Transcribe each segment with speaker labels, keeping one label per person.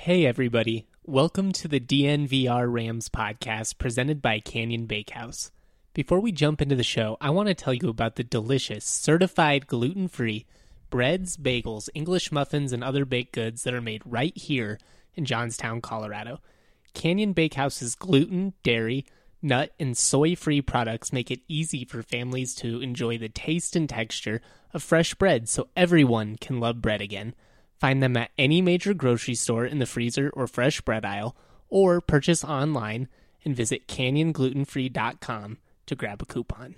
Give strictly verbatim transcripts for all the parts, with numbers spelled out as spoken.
Speaker 1: Hey everybody, welcome to the D N V R Rams podcast presented by Canyon Bakehouse. Before we jump into the show, I want to tell you about the delicious, certified gluten-free breads, bagels, English muffins, and other baked goods that are made right here in Johnstown, Colorado. Canyon Bakehouse's gluten, dairy, nut, and soy-free products make it easy for families to enjoy the taste and texture of fresh bread so everyone can love bread again. Find them at any major grocery store in the freezer or fresh bread aisle, or purchase online and visit canyon gluten free dot com to grab a coupon.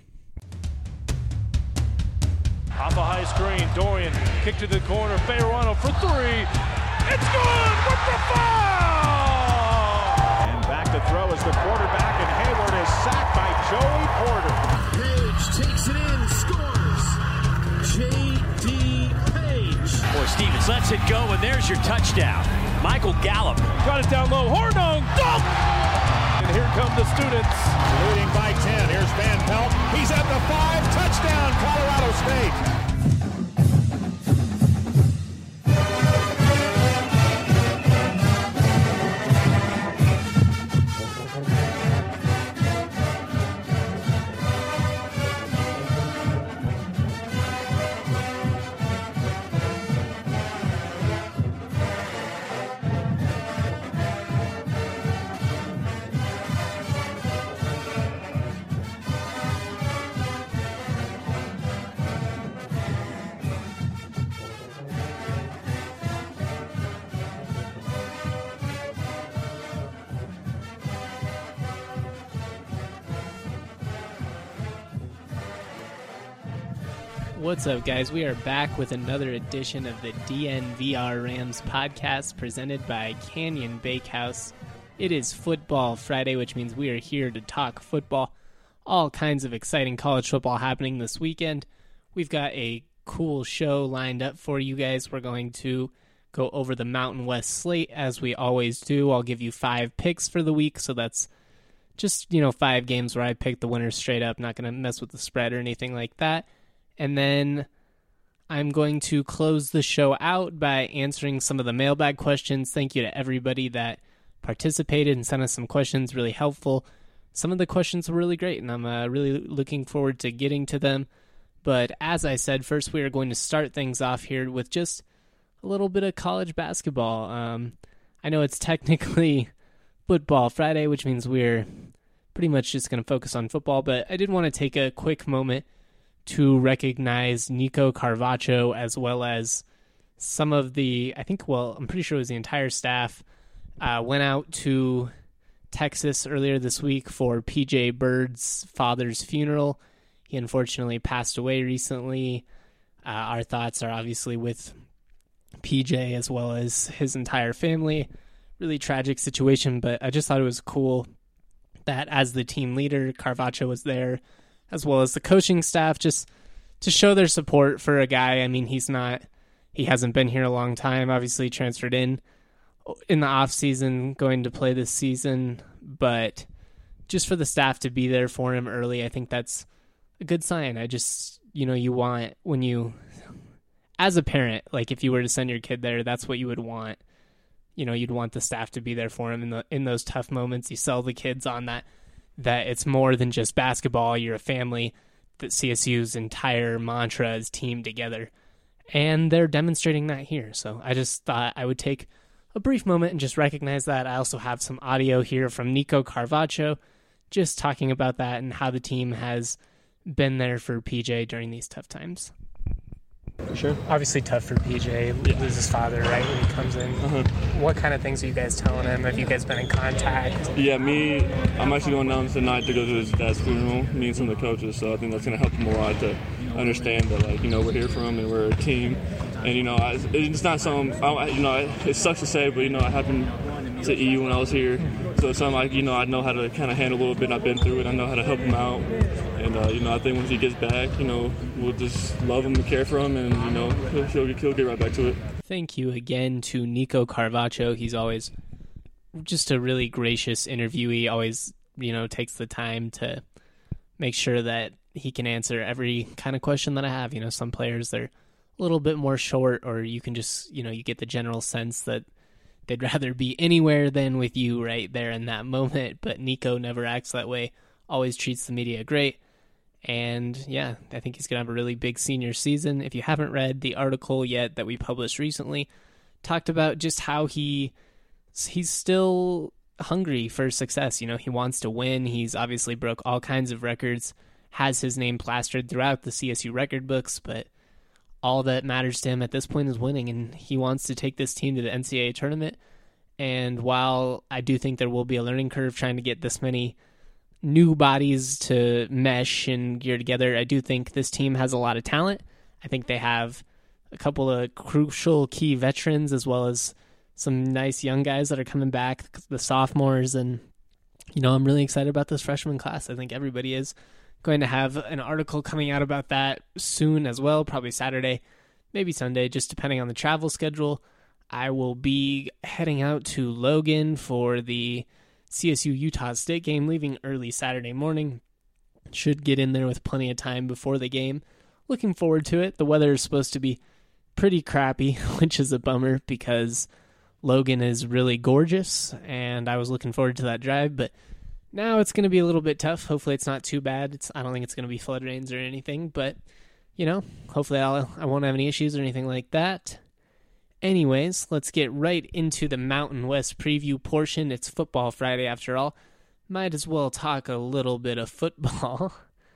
Speaker 2: Off a high screen, Dorian kick to the corner, Fayerano for three. It's good with the foul! And back to throw is the quarterback, and Hayward is sacked by Joey Porter.
Speaker 3: Page takes it in, scores. J D
Speaker 4: Boy, Stevens lets it go, and there's your touchdown. Michael Gallup.
Speaker 2: Got it down low. Hornung, dunk! And here come the students. Leading by ten. Here's Van Pelt. He's at the five. Touchdown, Colorado State.
Speaker 1: What's up, guys? We are back with another edition of the D N V R Rams podcast presented by Canyon Bakehouse. It is Football Friday, which means we are here to talk football. All kinds of exciting college football happening this weekend. We've got a cool show lined up for you guys. We're going to go over the Mountain West slate as we always do. I'll give you five picks for the week, so that's just, you know, five games where I pick the winners straight up. Not going to mess with the spread or anything like that. And then I'm going to close the show out by answering some of the mailbag questions. Thank you to everybody that participated and sent us some questions, really helpful. Some of the questions were really great, and I'm uh, really looking forward to getting to them. But as I said, first we are going to start things off here with just a little bit of college basketball. Um, I know it's technically Football Friday, which means we're pretty much just going to focus on football, but I did want to take a quick moment to recognize Nico Carvacho as well as some of the, I think, well, I'm pretty sure it was the entire staff, uh, went out to Texas earlier this week for P J Bird's father's funeral. He unfortunately passed away recently. Uh, our thoughts are obviously with P J as well as his entire family. Really tragic situation, but I just thought it was cool that as the team leader, Carvacho was there, as well as the coaching staff, just to show their support for a guy. I mean, he's not, he hasn't been here a long time, obviously transferred in in the off season, going to play this season, but just for the staff to be there for him early, I think that's a good sign. I just, you know, you want, when you, as a parent, like if you were to send your kid there, that's what you would want. You know, you'd want the staff to be there for him in the, in those tough moments. You sell the kids on that, that it's more than just basketball, you're a family, that C S U's entire mantra is team together. And they're demonstrating that here. So I just thought I would take a brief moment and just recognize that. I also have some audio here from Nico Carvacho, just talking about that and how the team has been there for P J during these tough times.
Speaker 5: Sure.
Speaker 1: Obviously tough for P J, loses his father right when he comes in.
Speaker 5: Uh-huh.
Speaker 1: What kind of things are you guys telling him? Have you guys been in contact?
Speaker 5: Yeah, me, I'm actually going down tonight to go to his dad's funeral, me and some of the coaches, so I think that's going to help him a lot to understand that, like, you know, we're here for him and we're a team. And, you know, I, it's not something, I, you know, it sucks to say, but, you know, I happened to E U when I was here. So it's something like, you know, I know how to kind of handle a little bit. I've been through it. I know how to help him out. And, uh, you know, I think once he gets back, you know, we'll just love him and care for him, and, you know, he'll, he'll, he'll get right back to it.
Speaker 1: Thank you again to Nico Carvacho. He's always just a really gracious interviewee, always, you know, takes the time to make sure that he can answer every kind of question that I have. You know, some players, they're a little bit more short, or you can just, you know, you get the general sense that they'd rather be anywhere than with you right there in that moment. But Nico never acts that way, always treats the media great. And yeah, I think he's going to have a really big senior season. If you haven't read the article yet that we published recently, talked about just how he he's still hungry for success. You know, he wants to win. He's obviously broke all kinds of records, has his name plastered throughout the C S U record books, but all that matters to him at this point is winning, and he wants to take this team to the N C double A tournament. And while I do think there will be a learning curve trying to get this many new bodies to mesh and gear together, I do think this team has a lot of talent. I think they have a couple of crucial key veterans as well as some nice young guys that are coming back, the sophomores, and you know, I'm really excited about this freshman class. I think everybody is. Going to have an article coming out about that soon as well, probably Saturday, maybe Sunday, just depending on the travel schedule. I will be heading out to Logan for the C S U Utah State game, leaving early Saturday morning. Should get in there with plenty of time before the game. Looking forward to it. The weather is supposed to be pretty crappy, which is a bummer because Logan is really gorgeous, and I was looking forward to that drive, but now it's going to be a little bit tough. Hopefully it's not too bad. It's, I don't think it's going to be flood rains or anything, but, you know, hopefully I'll, I won't have any issues or anything like that. Anyways, let's get right into the Mountain West preview portion. It's Football Friday after all. Might as well talk a little bit of football.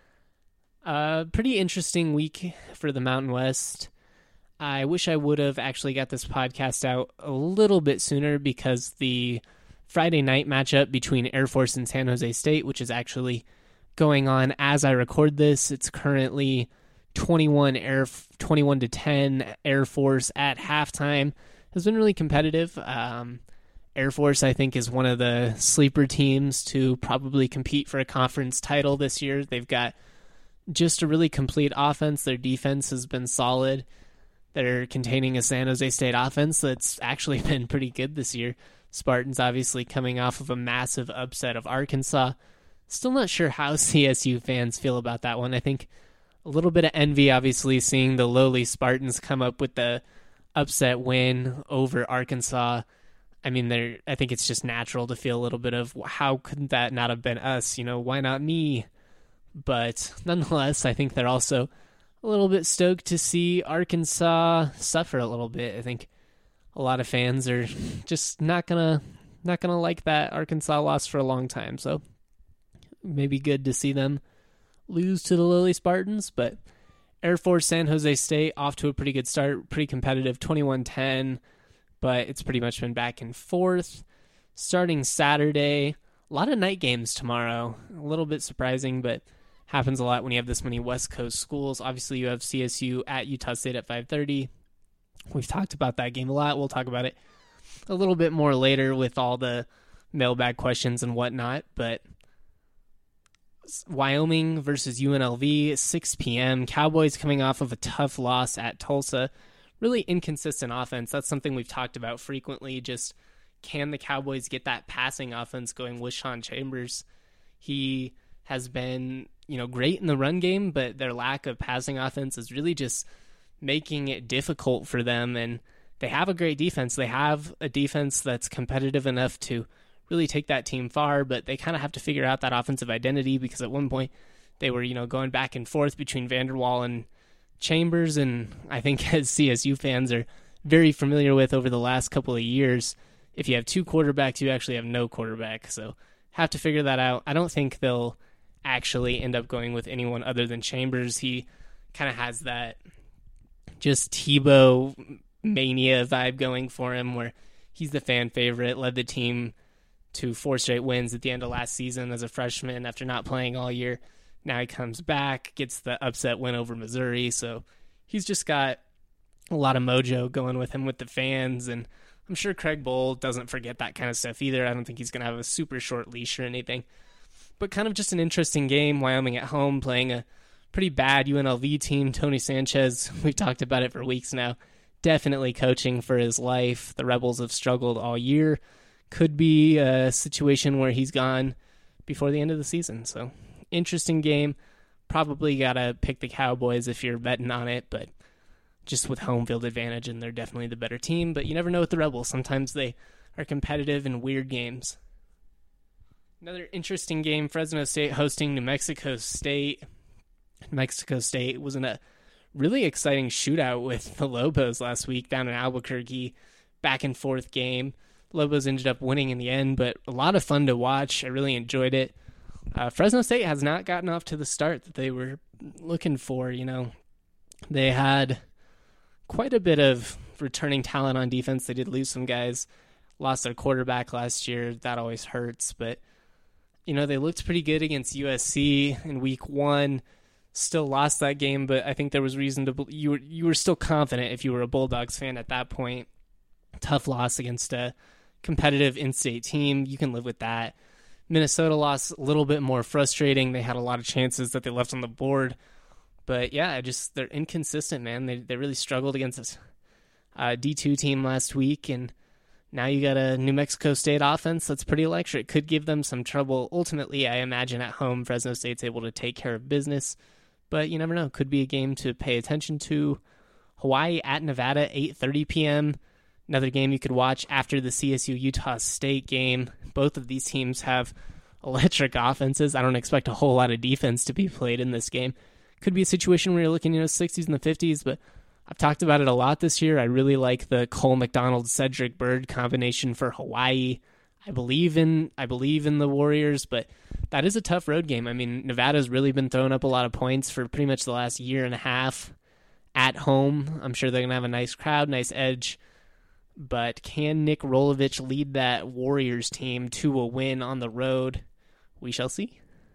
Speaker 1: Uh, pretty interesting week for the Mountain West. I wish I would have actually got this podcast out a little bit sooner because the Friday night matchup between Air Force and San Jose State, which is actually going on as I record this. It's currently twenty-one Air twenty-one to ten Air Force at halftime. Has been really competitive. Um, Air Force, I think, is one of the sleeper teams to probably compete for a conference title this year. They've got just a really complete offense. Their defense has been solid. They're containing a San Jose State offense that's actually been pretty good this year. Spartans obviously coming off of a massive upset of Arkansas. Still not sure how C S U fans feel about that one. I think a little bit of envy, obviously, seeing the lowly Spartans come up with the upset win over Arkansas. I mean, they're, I think it's just natural to feel a little bit of how could that not have been us? You know, why not me? But nonetheless, I think they're also a little bit stoked to see Arkansas suffer a little bit. I think a lot of fans are just not gonna not gonna like that Arkansas loss for a long time. So maybe good to see them lose to the lowly Spartans. But Air Force San Jose State off to a pretty good start, pretty competitive, twenty-one ten, but it's pretty much been back and forth. Starting Saturday, a lot of night games tomorrow. A little bit surprising, but happens a lot when you have this many West Coast schools. Obviously, you have C S U at Utah State at five thirty. We've talked about that game a lot. We'll talk about it a little bit more later with all the mailbag questions and whatnot. But Wyoming versus U N L V, six p.m. Cowboys coming off of a tough loss at Tulsa. Really inconsistent offense. That's something we've talked about frequently. Just can the Cowboys get that passing offense going with Sean Chambers? He has been, you know, great in the run game, but their lack of passing offense is really just making it difficult for them. And they have a great defense. They have a defense that's competitive enough to really take that team far, but they kind of have to figure out that offensive identity because at one point they were, you know, going back and forth between Vanderwall and Chambers. And I think as C S U fans are very familiar with over the last couple of years, if you have two quarterbacks, you actually have no quarterback. So have to figure that out. I don't think they'll actually end up going with anyone other than Chambers. He kind of has that just Tebow mania vibe going for him where he's the fan favorite, led the team to four straight wins at the end of last season as a freshman after not playing all year. Now he comes back, gets the upset win over Missouri. So he's just got a lot of mojo going with him with the fans. And I'm sure Craig Bohl doesn't forget that kind of stuff either. I don't think he's going to have a super short leash or anything. But kind of just an interesting game. Wyoming at home playing a pretty bad U N L V team. Tony Sanchez, we've talked about it for weeks now, definitely coaching for his life. The Rebels have struggled all year. Could be a situation where he's gone before the end of the season. So interesting game. Probably got to pick the Cowboys if you're betting on it, but just with home field advantage, and they're definitely the better team. But you never know with the Rebels. Sometimes they are competitive in weird games. Another interesting game, Fresno State hosting New Mexico State. Mexico State was in a really exciting shootout with the Lobos last week down in Albuquerque. Back and forth game. Lobos ended up winning in the end, but a lot of fun to watch. I really enjoyed it. Uh, Fresno State has not gotten off to the start that they were looking for. You know, they had quite a bit of returning talent on defense. They did lose some guys, lost their quarterback last year. That always hurts, but you know, they looked pretty good against U S C in week one. Still lost that game, but I think there was reason to believe you were you were still confident if you were a Bulldogs fan at that point. Tough loss against a competitive in-state team. You can live with that. Minnesota lost a little bit more frustrating. They had a lot of chances that they left on the board. But yeah, I just they're inconsistent, man. They they really struggled against this uh, D two team last week, and now you got a New Mexico State offense that's pretty electric. Could give them some trouble. Ultimately, I imagine at home, Fresno State's able to take care of business. But you never know. Could be a game to pay attention to. Hawaii at Nevada, eight thirty p.m. Another game you could watch after the C S U-Utah State game. Both of these teams have electric offenses. I don't expect a whole lot of defense to be played in this game. Could be a situation where you're looking, you know, sixties and the fifties, but I've talked about it a lot this year. I really like the Cole McDonald Cedric Bird combination for Hawaii. I believe in I believe in the Warriors, but that is a tough road game. I mean, Nevada's really been throwing up a lot of points for pretty much the last year and a half at home. I'm sure they're going to have a nice crowd, nice edge. But can Nick Rolovich lead that Warriors team to a win on the road? We shall see.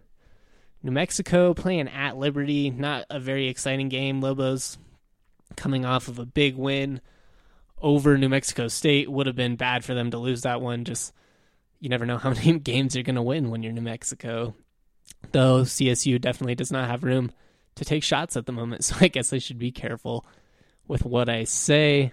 Speaker 1: New Mexico playing at Liberty. Not a very exciting game. Lobos coming off of a big win over New Mexico State. Would have been bad for them to lose that one. Just, you never know how many games you're going to win when you're New Mexico. Though C S U definitely does not have room to take shots at the moment. So I guess I should be careful with what I say.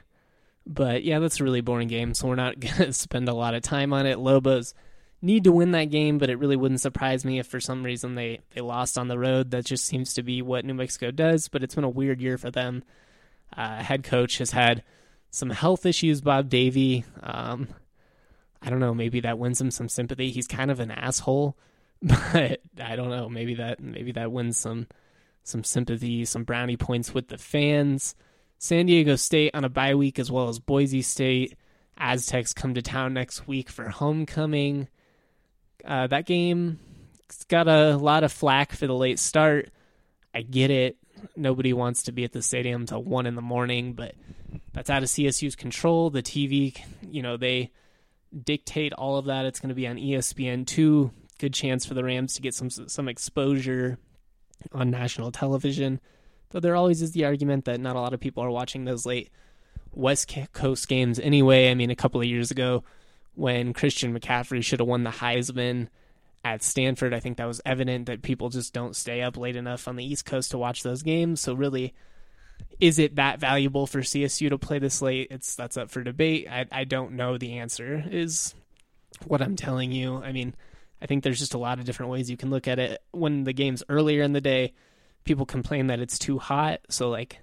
Speaker 1: But yeah, that's a really boring game, so we're not going to spend a lot of time on it. Lobos need to win that game, but it really wouldn't surprise me if for some reason they, they lost on the road. That just seems to be what New Mexico does, but it's been a weird year for them. Uh, head coach has had some health issues, Bob Davie. Um, I don't know, maybe that wins him some sympathy. He's kind of an asshole, but I don't know, maybe that maybe that wins some some sympathy, some brownie points with the fans. San Diego State on a bye week, as well as Boise State. Aztecs come to town next week for homecoming. Uh, that game got a lot of flack for the late start. I get it. Nobody wants to be at the stadium till one in the morning, but that's out of C S U's control. The T V, you know, they dictate all of that. It's going to be on E S P N two. Good chance for the Rams to get some some exposure on national television. Though there always is the argument that not a lot of people are watching those late West Coast games anyway. I mean, a couple of years ago when Christian McCaffrey should have won the Heisman at Stanford, I think that was evident that people just don't stay up late enough on the East Coast to watch those games. So really, is it that valuable for C S U to play this late? It's that's up for debate. I, I don't know the answer is what I'm telling you. I mean, I think there's just a lot of different ways you can look at it. When the game's earlier in the day, people complain that it's too hot. So, like,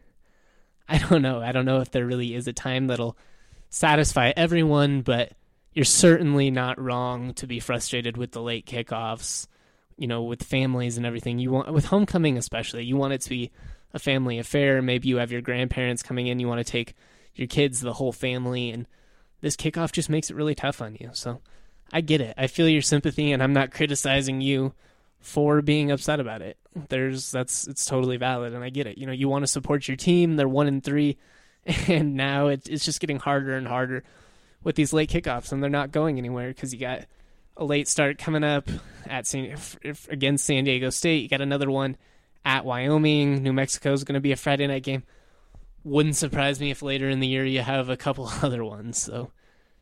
Speaker 1: I don't know. I don't know if there really is a time that'll satisfy everyone, but you're certainly not wrong to be frustrated with the late kickoffs, you know, with families and everything. You want, with homecoming especially, you want it to be a family affair. Maybe you have your grandparents coming in. You want to take your kids, the whole family, and this kickoff just makes it really tough on you. So I get it. I feel your sympathy, and I'm not criticizing you for being upset about it. There's that's it's totally valid, and I get it. You know, you want to support your team. They're one and three, and now it, it's just getting harder and harder with these late kickoffs, and they're not going anywhere because you got a late start coming up at San, if, if, against San Diego State. You got another one at Wyoming. New Mexico is going to be a Friday night game. Wouldn't surprise me if later in the year you have a couple other ones. So,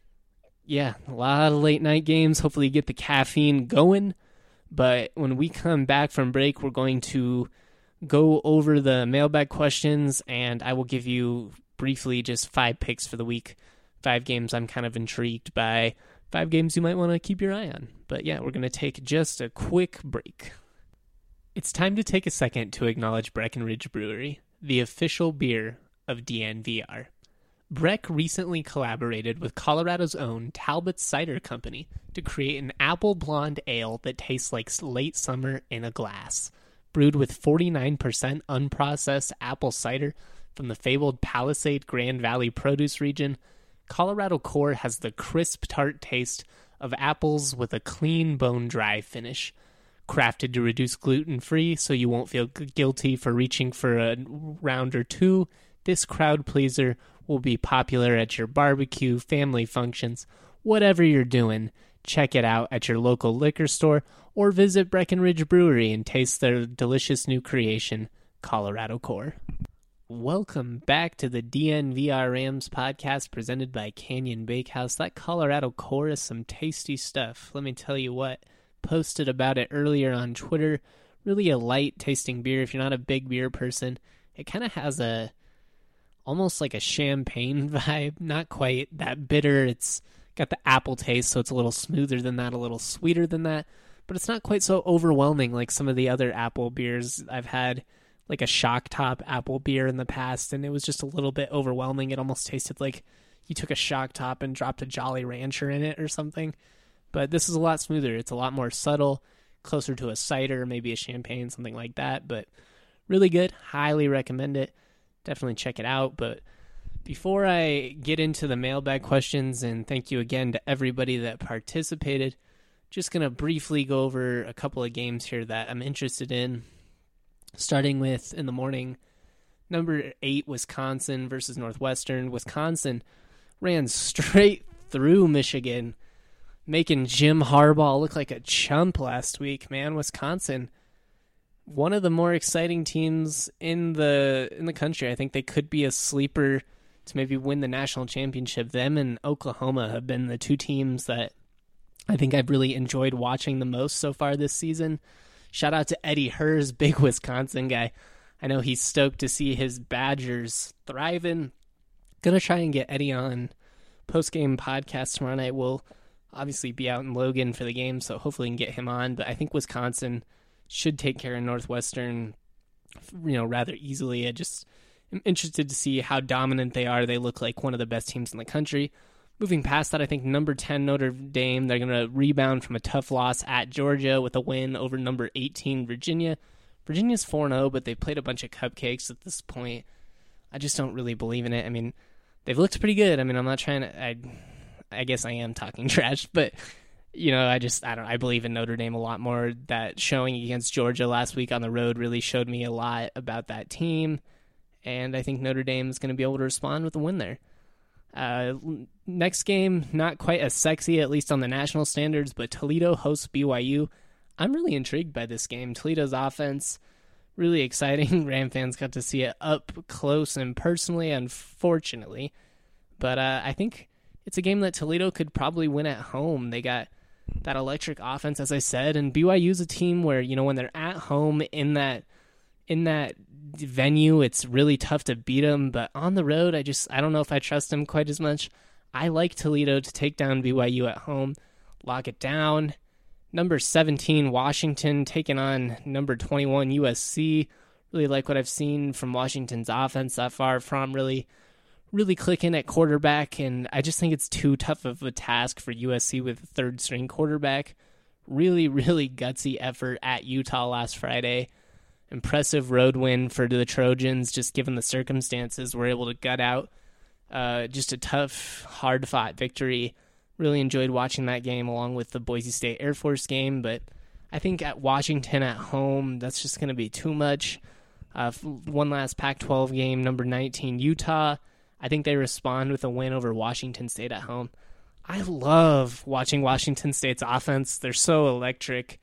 Speaker 1: yeah, a lot of late night games. Hopefully you get the caffeine going. But when we come back from break, we're going to go over the mailbag questions, and I will give you briefly just five picks for the week. Five games I'm kind of intrigued by. Five games you might want to keep your eye on. But yeah, we're going to take just a quick break. It's time to take a second to acknowledge Breckenridge Brewery, the official beer of D N V R. Breck recently collaborated with Colorado's own Talbot Cider Company to create an apple blonde ale that tastes like late summer in a glass. Brewed with forty-nine percent unprocessed apple cider from the fabled Palisade Grand Valley produce region, Colorado Core has the crisp, tart taste of apples with a clean, bone-dry finish. Crafted to reduce gluten-free so you won't feel guilty for reaching for a round or two, this crowd pleaser will be popular at your barbecue, family functions, whatever you're doing. Check it out at your local liquor store or visit Breckenridge Brewery and taste their delicious new creation, Colorado Core. Welcome back to the D N V R Rams podcast presented by Canyon Bakehouse. That Colorado Core is some tasty stuff. Let me tell you what. Posted about it earlier on Twitter. Really a light tasting beer. If you're not a big beer person, it kind of has a almost like a champagne vibe. Not quite that bitter. It's got the apple taste, so it's a little smoother than that, a little sweeter than that, but it's not quite so overwhelming like some of the other apple beers I've had, like a Shock Top apple beer in the past, and it was just a little bit overwhelming. It almost tasted like you took a Shock Top and dropped a Jolly Rancher in it or something. But this is a lot smoother. It's a lot more subtle, closer to a cider, maybe a champagne, something like that. But really good. Highly recommend it. Definitely check it out. But before I get into the mailbag questions, and thank you again to everybody that participated, just going to briefly go over a couple of games here that I'm interested in. Starting with, in the morning, number eight, Wisconsin versus Northwestern. Wisconsin ran straight through Michigan, making Jim Harbaugh look like a chump last week, man. Wisconsin, one of the more exciting teams in the in the country. I think they could be a sleeper to maybe win the national championship. Them and Oklahoma have been the two teams that I think I've really enjoyed watching the most so far this season. Shout out to Eddie Hers, big Wisconsin guy. I know he's stoked to see his Badgers thriving. Gonna try and get Eddie on post-game podcast tomorrow night. We'll obviously be out in Logan for the game, so hopefully we can get him on. But I think Wisconsin should take care of Northwestern, you know, rather easily. I just am interested to see how dominant they are. They look like one of the best teams in the country. Moving past that, I think number ten Notre Dame, they're going to rebound from a tough loss at Georgia with a win over number eighteen Virginia. Virginia's four and oh, but they played a bunch of cupcakes at this point. I just don't really believe in it. I mean, they've looked pretty good. I mean, I'm not trying to... I, I guess I am talking trash, but, you know, I just, I don't I believe in Notre Dame a lot more. That showing against Georgia last week on the road really showed me a lot about that team, and I think Notre Dame is going to be able to respond with a win there. Uh, next game, not quite as sexy, at least on the national standards, but Toledo hosts B Y U. I'm really intrigued by this game. Toledo's offense, really exciting. Ram fans got to see it up close and personally, unfortunately. But uh, I think it's a game that Toledo could probably win at home. They got that electric offense, as I said, and B Y U's a team where, you know, when they're at home in that in that venue, it's really tough to beat them. But on the road, I just I don't know if I trust them quite as much. I like Toledo to take down B Y U at home, lock it down. Number seventeen, Washington, taking on number twenty-one, U S C. Really like what I've seen from Washington's offense that far. From really, really clicking at quarterback, and I just think it's too tough of a task for U S C with a third-string quarterback. Really, really gutsy effort at Utah last Friday. Impressive road win for the Trojans, just given the circumstances. We're able to gut out uh, just a tough, hard-fought victory. Really enjoyed watching that game along with the Boise State Air Force game, but I think at Washington at home, that's just going to be too much. Uh, one last Pac twelve game, number nineteen, Utah. I think they respond with a win over Washington State at home. I love watching Washington State's offense. They're so electric,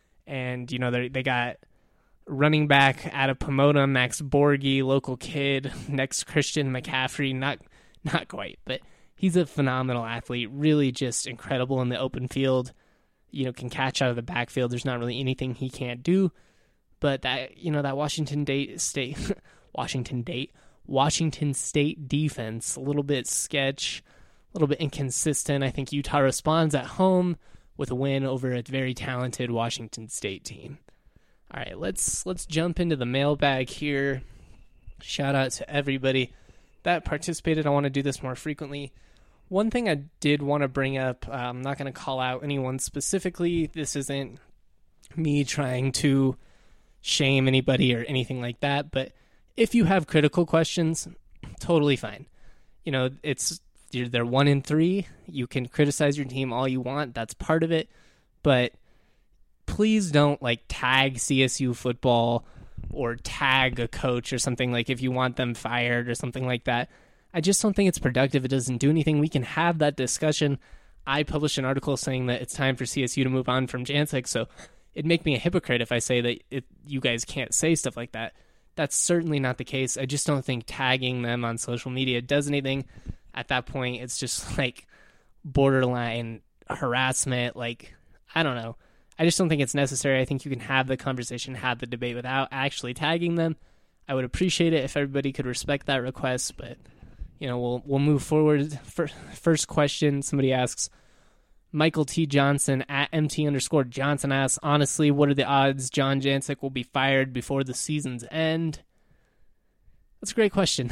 Speaker 1: and you know they they got running back out of Pomona, Max Borghi, local kid, next Christian McCaffrey, not not quite, but he's a phenomenal athlete, really just incredible in the open field. You know, can catch out of the backfield. There's not really anything he can't do. But that, you know, that Washington State, State Washington State, Washington State defense, a little bit sketch, a little bit inconsistent. I think Utah responds at home with a win over a very talented Washington State team. All right, let's let's jump into the mailbag here. Shout out to everybody that participated. I want to do this more frequently. One thing I did want to bring up, uh, I'm not going to call out anyone specifically. This isn't me trying to shame anybody or anything like that, but if you have critical questions, totally fine. You know, it's you're, they're one in three. You can criticize your team all you want. That's part of it. But please don't like tag C S U football or tag a coach or something, like if you want them fired or something like that. I just don't think it's productive. It doesn't do anything. We can have that discussion. I published an article saying that it's time for C S U to move on from Jancic, so it'd make me a hypocrite if I say that it, you guys can't say stuff like that. That's certainly not the case. I just don't think tagging them on social media does anything. At that point, it's just like borderline harassment. Like, I don't know. I just don't think it's necessary. I think you can have the conversation, have the debate without actually tagging them. I would appreciate it if everybody could respect that request, but you know, we'll we'll move forward. First question, somebody asks, Michael T. Johnson at M T underscore Johnson asks, honestly, what are the odds John Jancic will be fired before the season's end? That's a great question.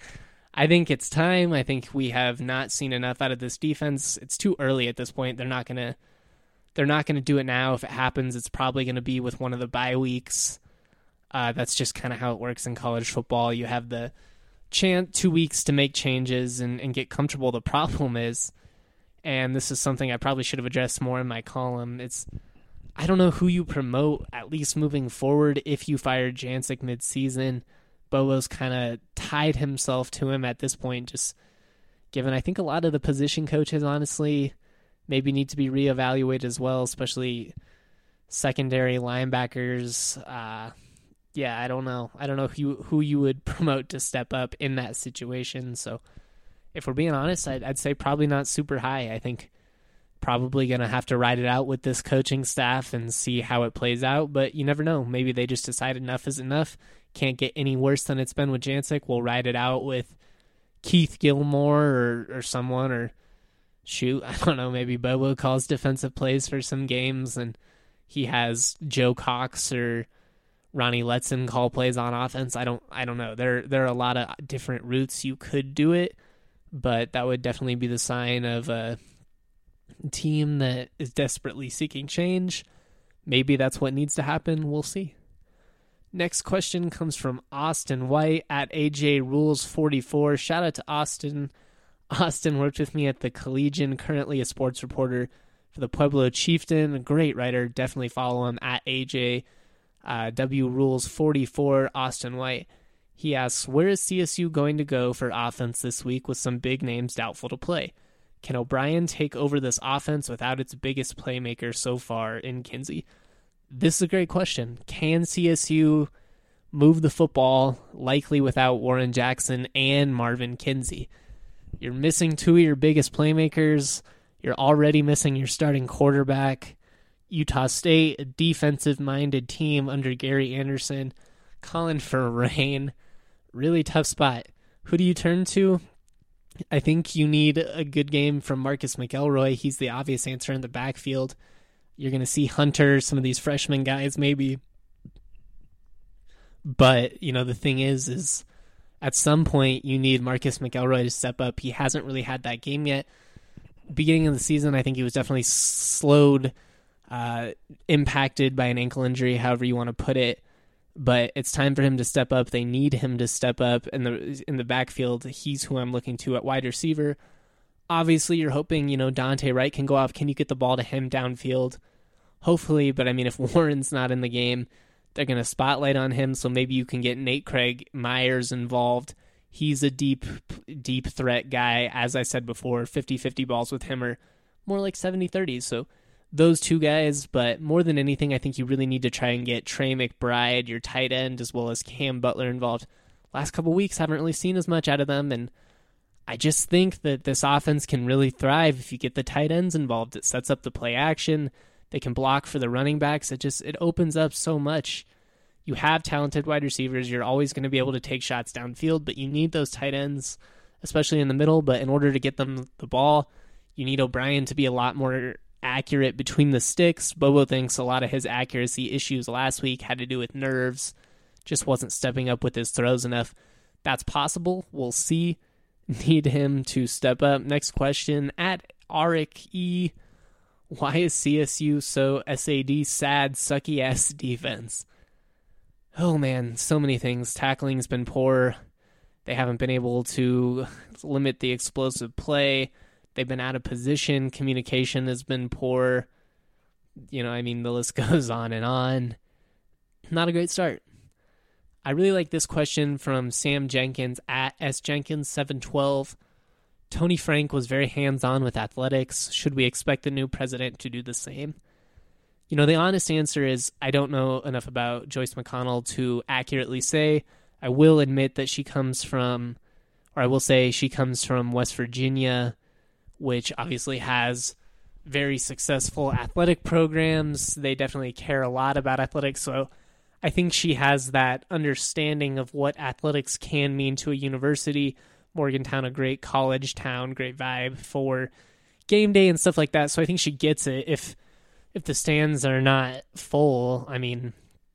Speaker 1: I think it's time. I think we have not seen enough out of this defense. It's too early at this point. They're not gonna they're not gonna do it now. If it happens, it's probably gonna be with one of the bye weeks. Uh, that's just kind of how it works in college football. You have the chance two weeks to make changes and, and get comfortable. The problem is, and this is something I probably should have addressed more in my column, it's I don't know who you promote, at least moving forward, if you fire Jancic mid-season. Bobo's kind of tied himself to him at this point, just given I think a lot of the position coaches, honestly, maybe need to be reevaluated as well, especially secondary linebackers. Uh, yeah, I don't know. I don't know who you, who you would promote to step up in that situation, so if we're being honest, I'd, I'd say probably not super high. I think probably going to have to ride it out with this coaching staff and see how it plays out, but you never know. Maybe they just decide enough is enough. Can't get any worse than it's been with Jancic. We'll ride it out with Keith Gilmore or, or someone, or shoot, I don't know, maybe Bobo calls defensive plays for some games and he has Joe Cox or Ronnie Letson call plays on offense. I don't I don't know. There, there are a lot of different routes you could do it, but that would definitely be the sign of a team that is desperately seeking change. Maybe that's what needs to happen. We'll see. Next question comes from Austin White at A J Rules forty-four. Shout out to Austin. Austin worked with me at the Collegian, currently a sports reporter for the Pueblo Chieftain. A great writer. Definitely follow him at A J uh, W Rules forty-four. Austin White. He asks, where is C S U going to go for offense this week with some big names doubtful to play? Can O'Brien take over this offense without its biggest playmaker so far in Kinsey? This is a great question. Can C S U move the football, likely without Warren Jackson and Marvin Kinsey? You're missing two of your biggest playmakers. You're already missing your starting quarterback. Utah State, a defensive-minded team under Gary Anderson, calling for rain. Really tough spot. Who do you turn to? I think you need a good game from Marcus McElroy. He's the obvious answer in the backfield. You're going to see Hunter, some of these freshman guys maybe. But, you know, the thing is, is at some point you need Marcus McElroy to step up. He hasn't really had that game yet. Beginning of the season, I think he was definitely slowed, uh, impacted by an ankle injury, however you want to put it. But it's time for him to step up. They need him to step up in the in the backfield. He's who I'm looking to at wide receiver. Obviously, you're hoping, you know, Dante Wright can go off. Can you get the ball to him downfield? Hopefully, but I mean, if Warren's not in the game, they're going to spotlight on him, so maybe you can get Nate Craig Myers involved. He's a deep, deep threat guy. As I said before, fifty-fifty balls with him are more like seventy-thirty, so those two guys, but more than anything, I think you really need to try and get Trey McBride, your tight end, as well as Cam Butler involved. Last couple weeks, haven't really seen as much out of them, and I just think that this offense can really thrive if you get the tight ends involved. It sets up the play action. They can block for the running backs. It just it opens up so much. You have talented wide receivers. You're always going to be able to take shots downfield, but you need those tight ends, especially in the middle. But in order to get them the ball, you need O'Brien to be a lot more accurate between the sticks. Bobo thinks a lot of his accuracy issues last week had to do with nerves. Just wasn't stepping up with his throws enough. That's possible. We'll see. Need him to step up. Next question, at Arik E. Why is C S U so S A D sad, sucky ass defense? Oh man, so many things. Tackling's been poor. They haven't been able to limit the explosive play. They've been out of position. Communication has been poor. You know, I mean, the list goes on and on. Not a great start. I really like this question from Sam Jenkins at S Jenkins seven twelve. Tony Frank was very hands-on with athletics. Should we expect the new president to do the same? You know, the honest answer is I don't know enough about Joyce McConnell to accurately say. I will admit that she comes from, or I will say she comes from West Virginia, which obviously has very successful athletic programs. They definitely care a lot about athletics, so I think she has that understanding of what athletics can mean to a university. Morgantown, a great college town, great vibe for game day and stuff like that. So I think she gets it. If if the stands are not full, I mean,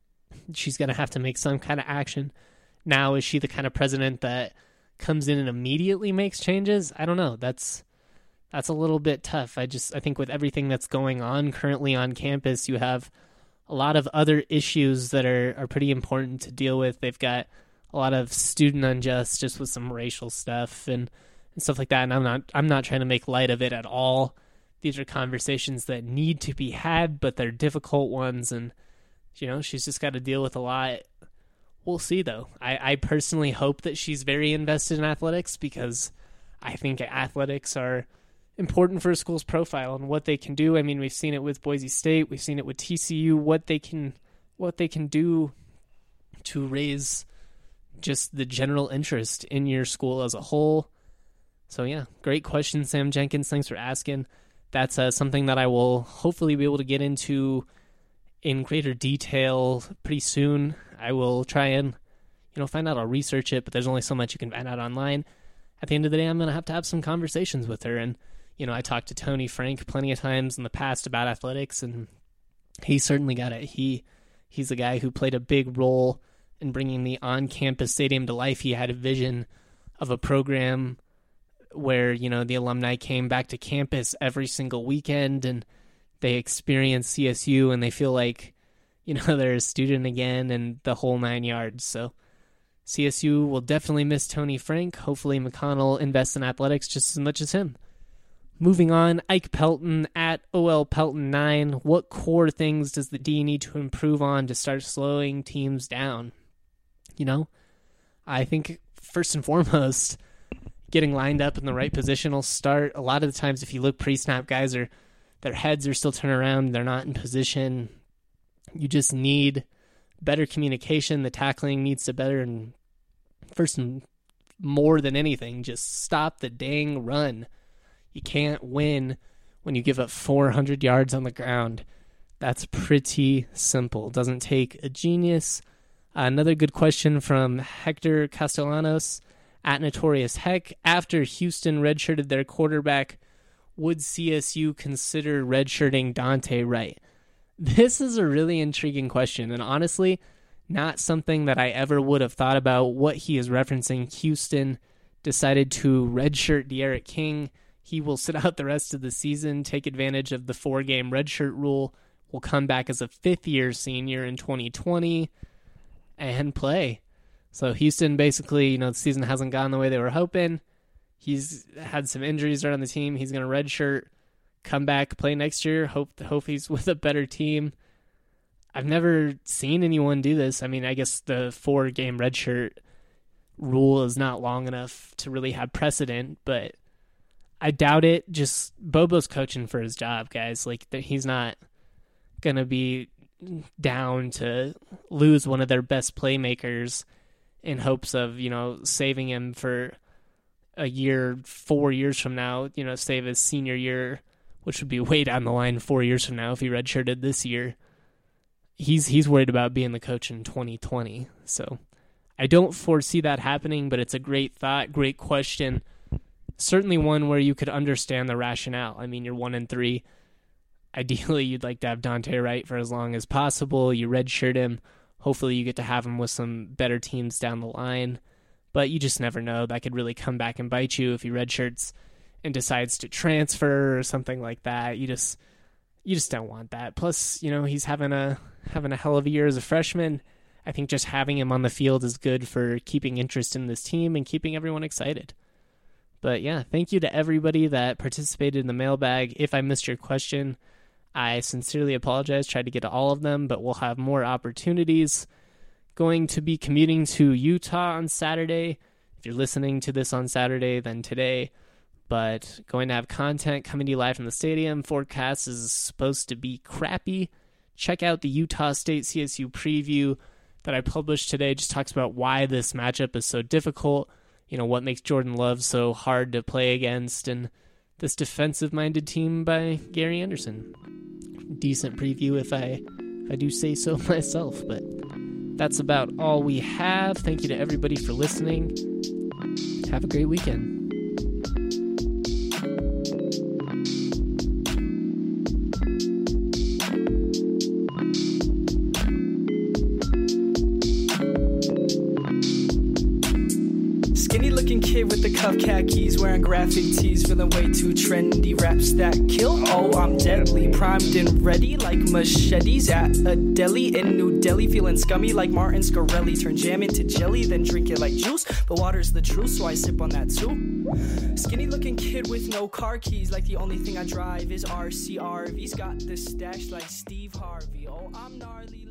Speaker 1: she's going to have to make some kind of action. Now, is she the kind of president that comes in and immediately makes changes? I don't know. That's that's a little bit tough. I just I think with everything that's going on currently on campus, you have a lot of other issues that are, are pretty important to deal with. They've got a lot of student unjust just with some racial stuff and, and stuff like that. And I'm not I'm not trying to make light of it at all. These are conversations that need to be had, but they're difficult ones. And, you know, she's just got to deal with a lot. We'll see, though. I, I personally hope that she's very invested in athletics because I think athletics are important for a school's profile and what they can do. I mean, we've seen it with Boise State. We've seen it with T C U, what they can what they can do to raise just the general interest in your school as a whole. So, yeah, great question, Sam Jenkins. Thanks for asking. That's uh, something that I will hopefully be able to get into in greater detail pretty soon. I will try and, you know, find out. I'll research it, but there's only so much you can find out online. At the end of the day, I'm going to have to have some conversations with her. And, you know, I talked to Tony Frank plenty of times in the past about athletics, and he certainly got it. He He's a guy who played a big role in bringing the on-campus stadium to life. He had a vision of a program where, you know, the alumni came back to campus every single weekend and they experience C S U and they feel like, you know, they're a student again and the whole nine yards. So C S U will definitely miss Tony Frank. Hopefully McConnell invests in athletics just as much as him. Moving on, Ike Pelton at O L Pelton nine. What core things does the D need to improve on to start slowing teams down? You know, I think first and foremost, getting lined up in the right position will start. A lot of the times, if you look pre-snap, guys are their heads are still turned around. They're not in position. You just need better communication. The tackling needs to better, and first and more than anything, just stop the dang run. You can't win when you give up four hundred yards on the ground. That's pretty simple. It doesn't take a genius. Uh, another good question from Hector Castellanos at Notorious Heck. After Houston redshirted their quarterback, would C S U consider redshirting Dante Wright? This is a really intriguing question, and honestly, not something that I ever would have thought about. What he is referencing, Houston decided to redshirt De'Aaron King. He will sit out the rest of the season, take advantage of the four-game redshirt rule, will come back as a fifth-year senior in twenty twenty, and play. So Houston basically, you know, the season hasn't gone the way they were hoping. He's had some injuries around the team. He's going to redshirt, come back, play next year, hope hope he's with a better team. I've never seen anyone do this. I mean, I guess the four-game redshirt rule is not long enough to really have precedent, but I doubt it. Just Bobo's coaching for his job, guys. Like, he's not going to be down to lose one of their best playmakers in hopes of, you know, saving him for a year, four years from now, you know, save his senior year, which would be way down the line four years from now if he redshirted this year. He's he's worried about being the coach in twenty twenty. So I don't foresee that happening, but it's a great thought, great question. Certainly one where you could understand the rationale. I mean, you're one and three. Ideally, you'd like to have Dante Wright for as long as possible. You redshirt him. Hopefully, you get to have him with some better teams down the line. but you just never know. That could really come back and bite you if he redshirts and decides to transfer or something like that. You just you just don't want that. Plus, you know, he's having a having a hell of a year as a freshman. I think just having him on the field is good for keeping interest in this team and keeping everyone excited. But yeah, thank you to everybody that participated in the mailbag. If I missed your question, I sincerely apologize. Tried to get to all of them, but we'll have more opportunities. Going to be commuting to Utah on Saturday. If you're listening to this on Saturday, then today. But going to have content coming to you live from the stadium. Forecast is supposed to be crappy. Check out the Utah State C S U preview that I published today. Just talks about why this matchup is so difficult. You know, what makes Jordan Love so hard to play against, and this defensive-minded team by Gary Anderson. Decent preview if I if I do say so myself, but that's about all we have. Thank you to everybody for listening. Have a great weekend.
Speaker 6: Kid with the cuff khakis, wearing graphic tees, feeling way too trendy. Raps that kill, oh I'm deadly, primed and ready like machetes at a deli in New Delhi. Feeling scummy like Martin Scarelli, turn jam into jelly, then drink it like juice. But water's the truth, so I sip on that too. Skinny looking kid with no car keys, like the only thing I drive is R C R V's. Got the stash like Steve Harvey, oh I'm gnarly.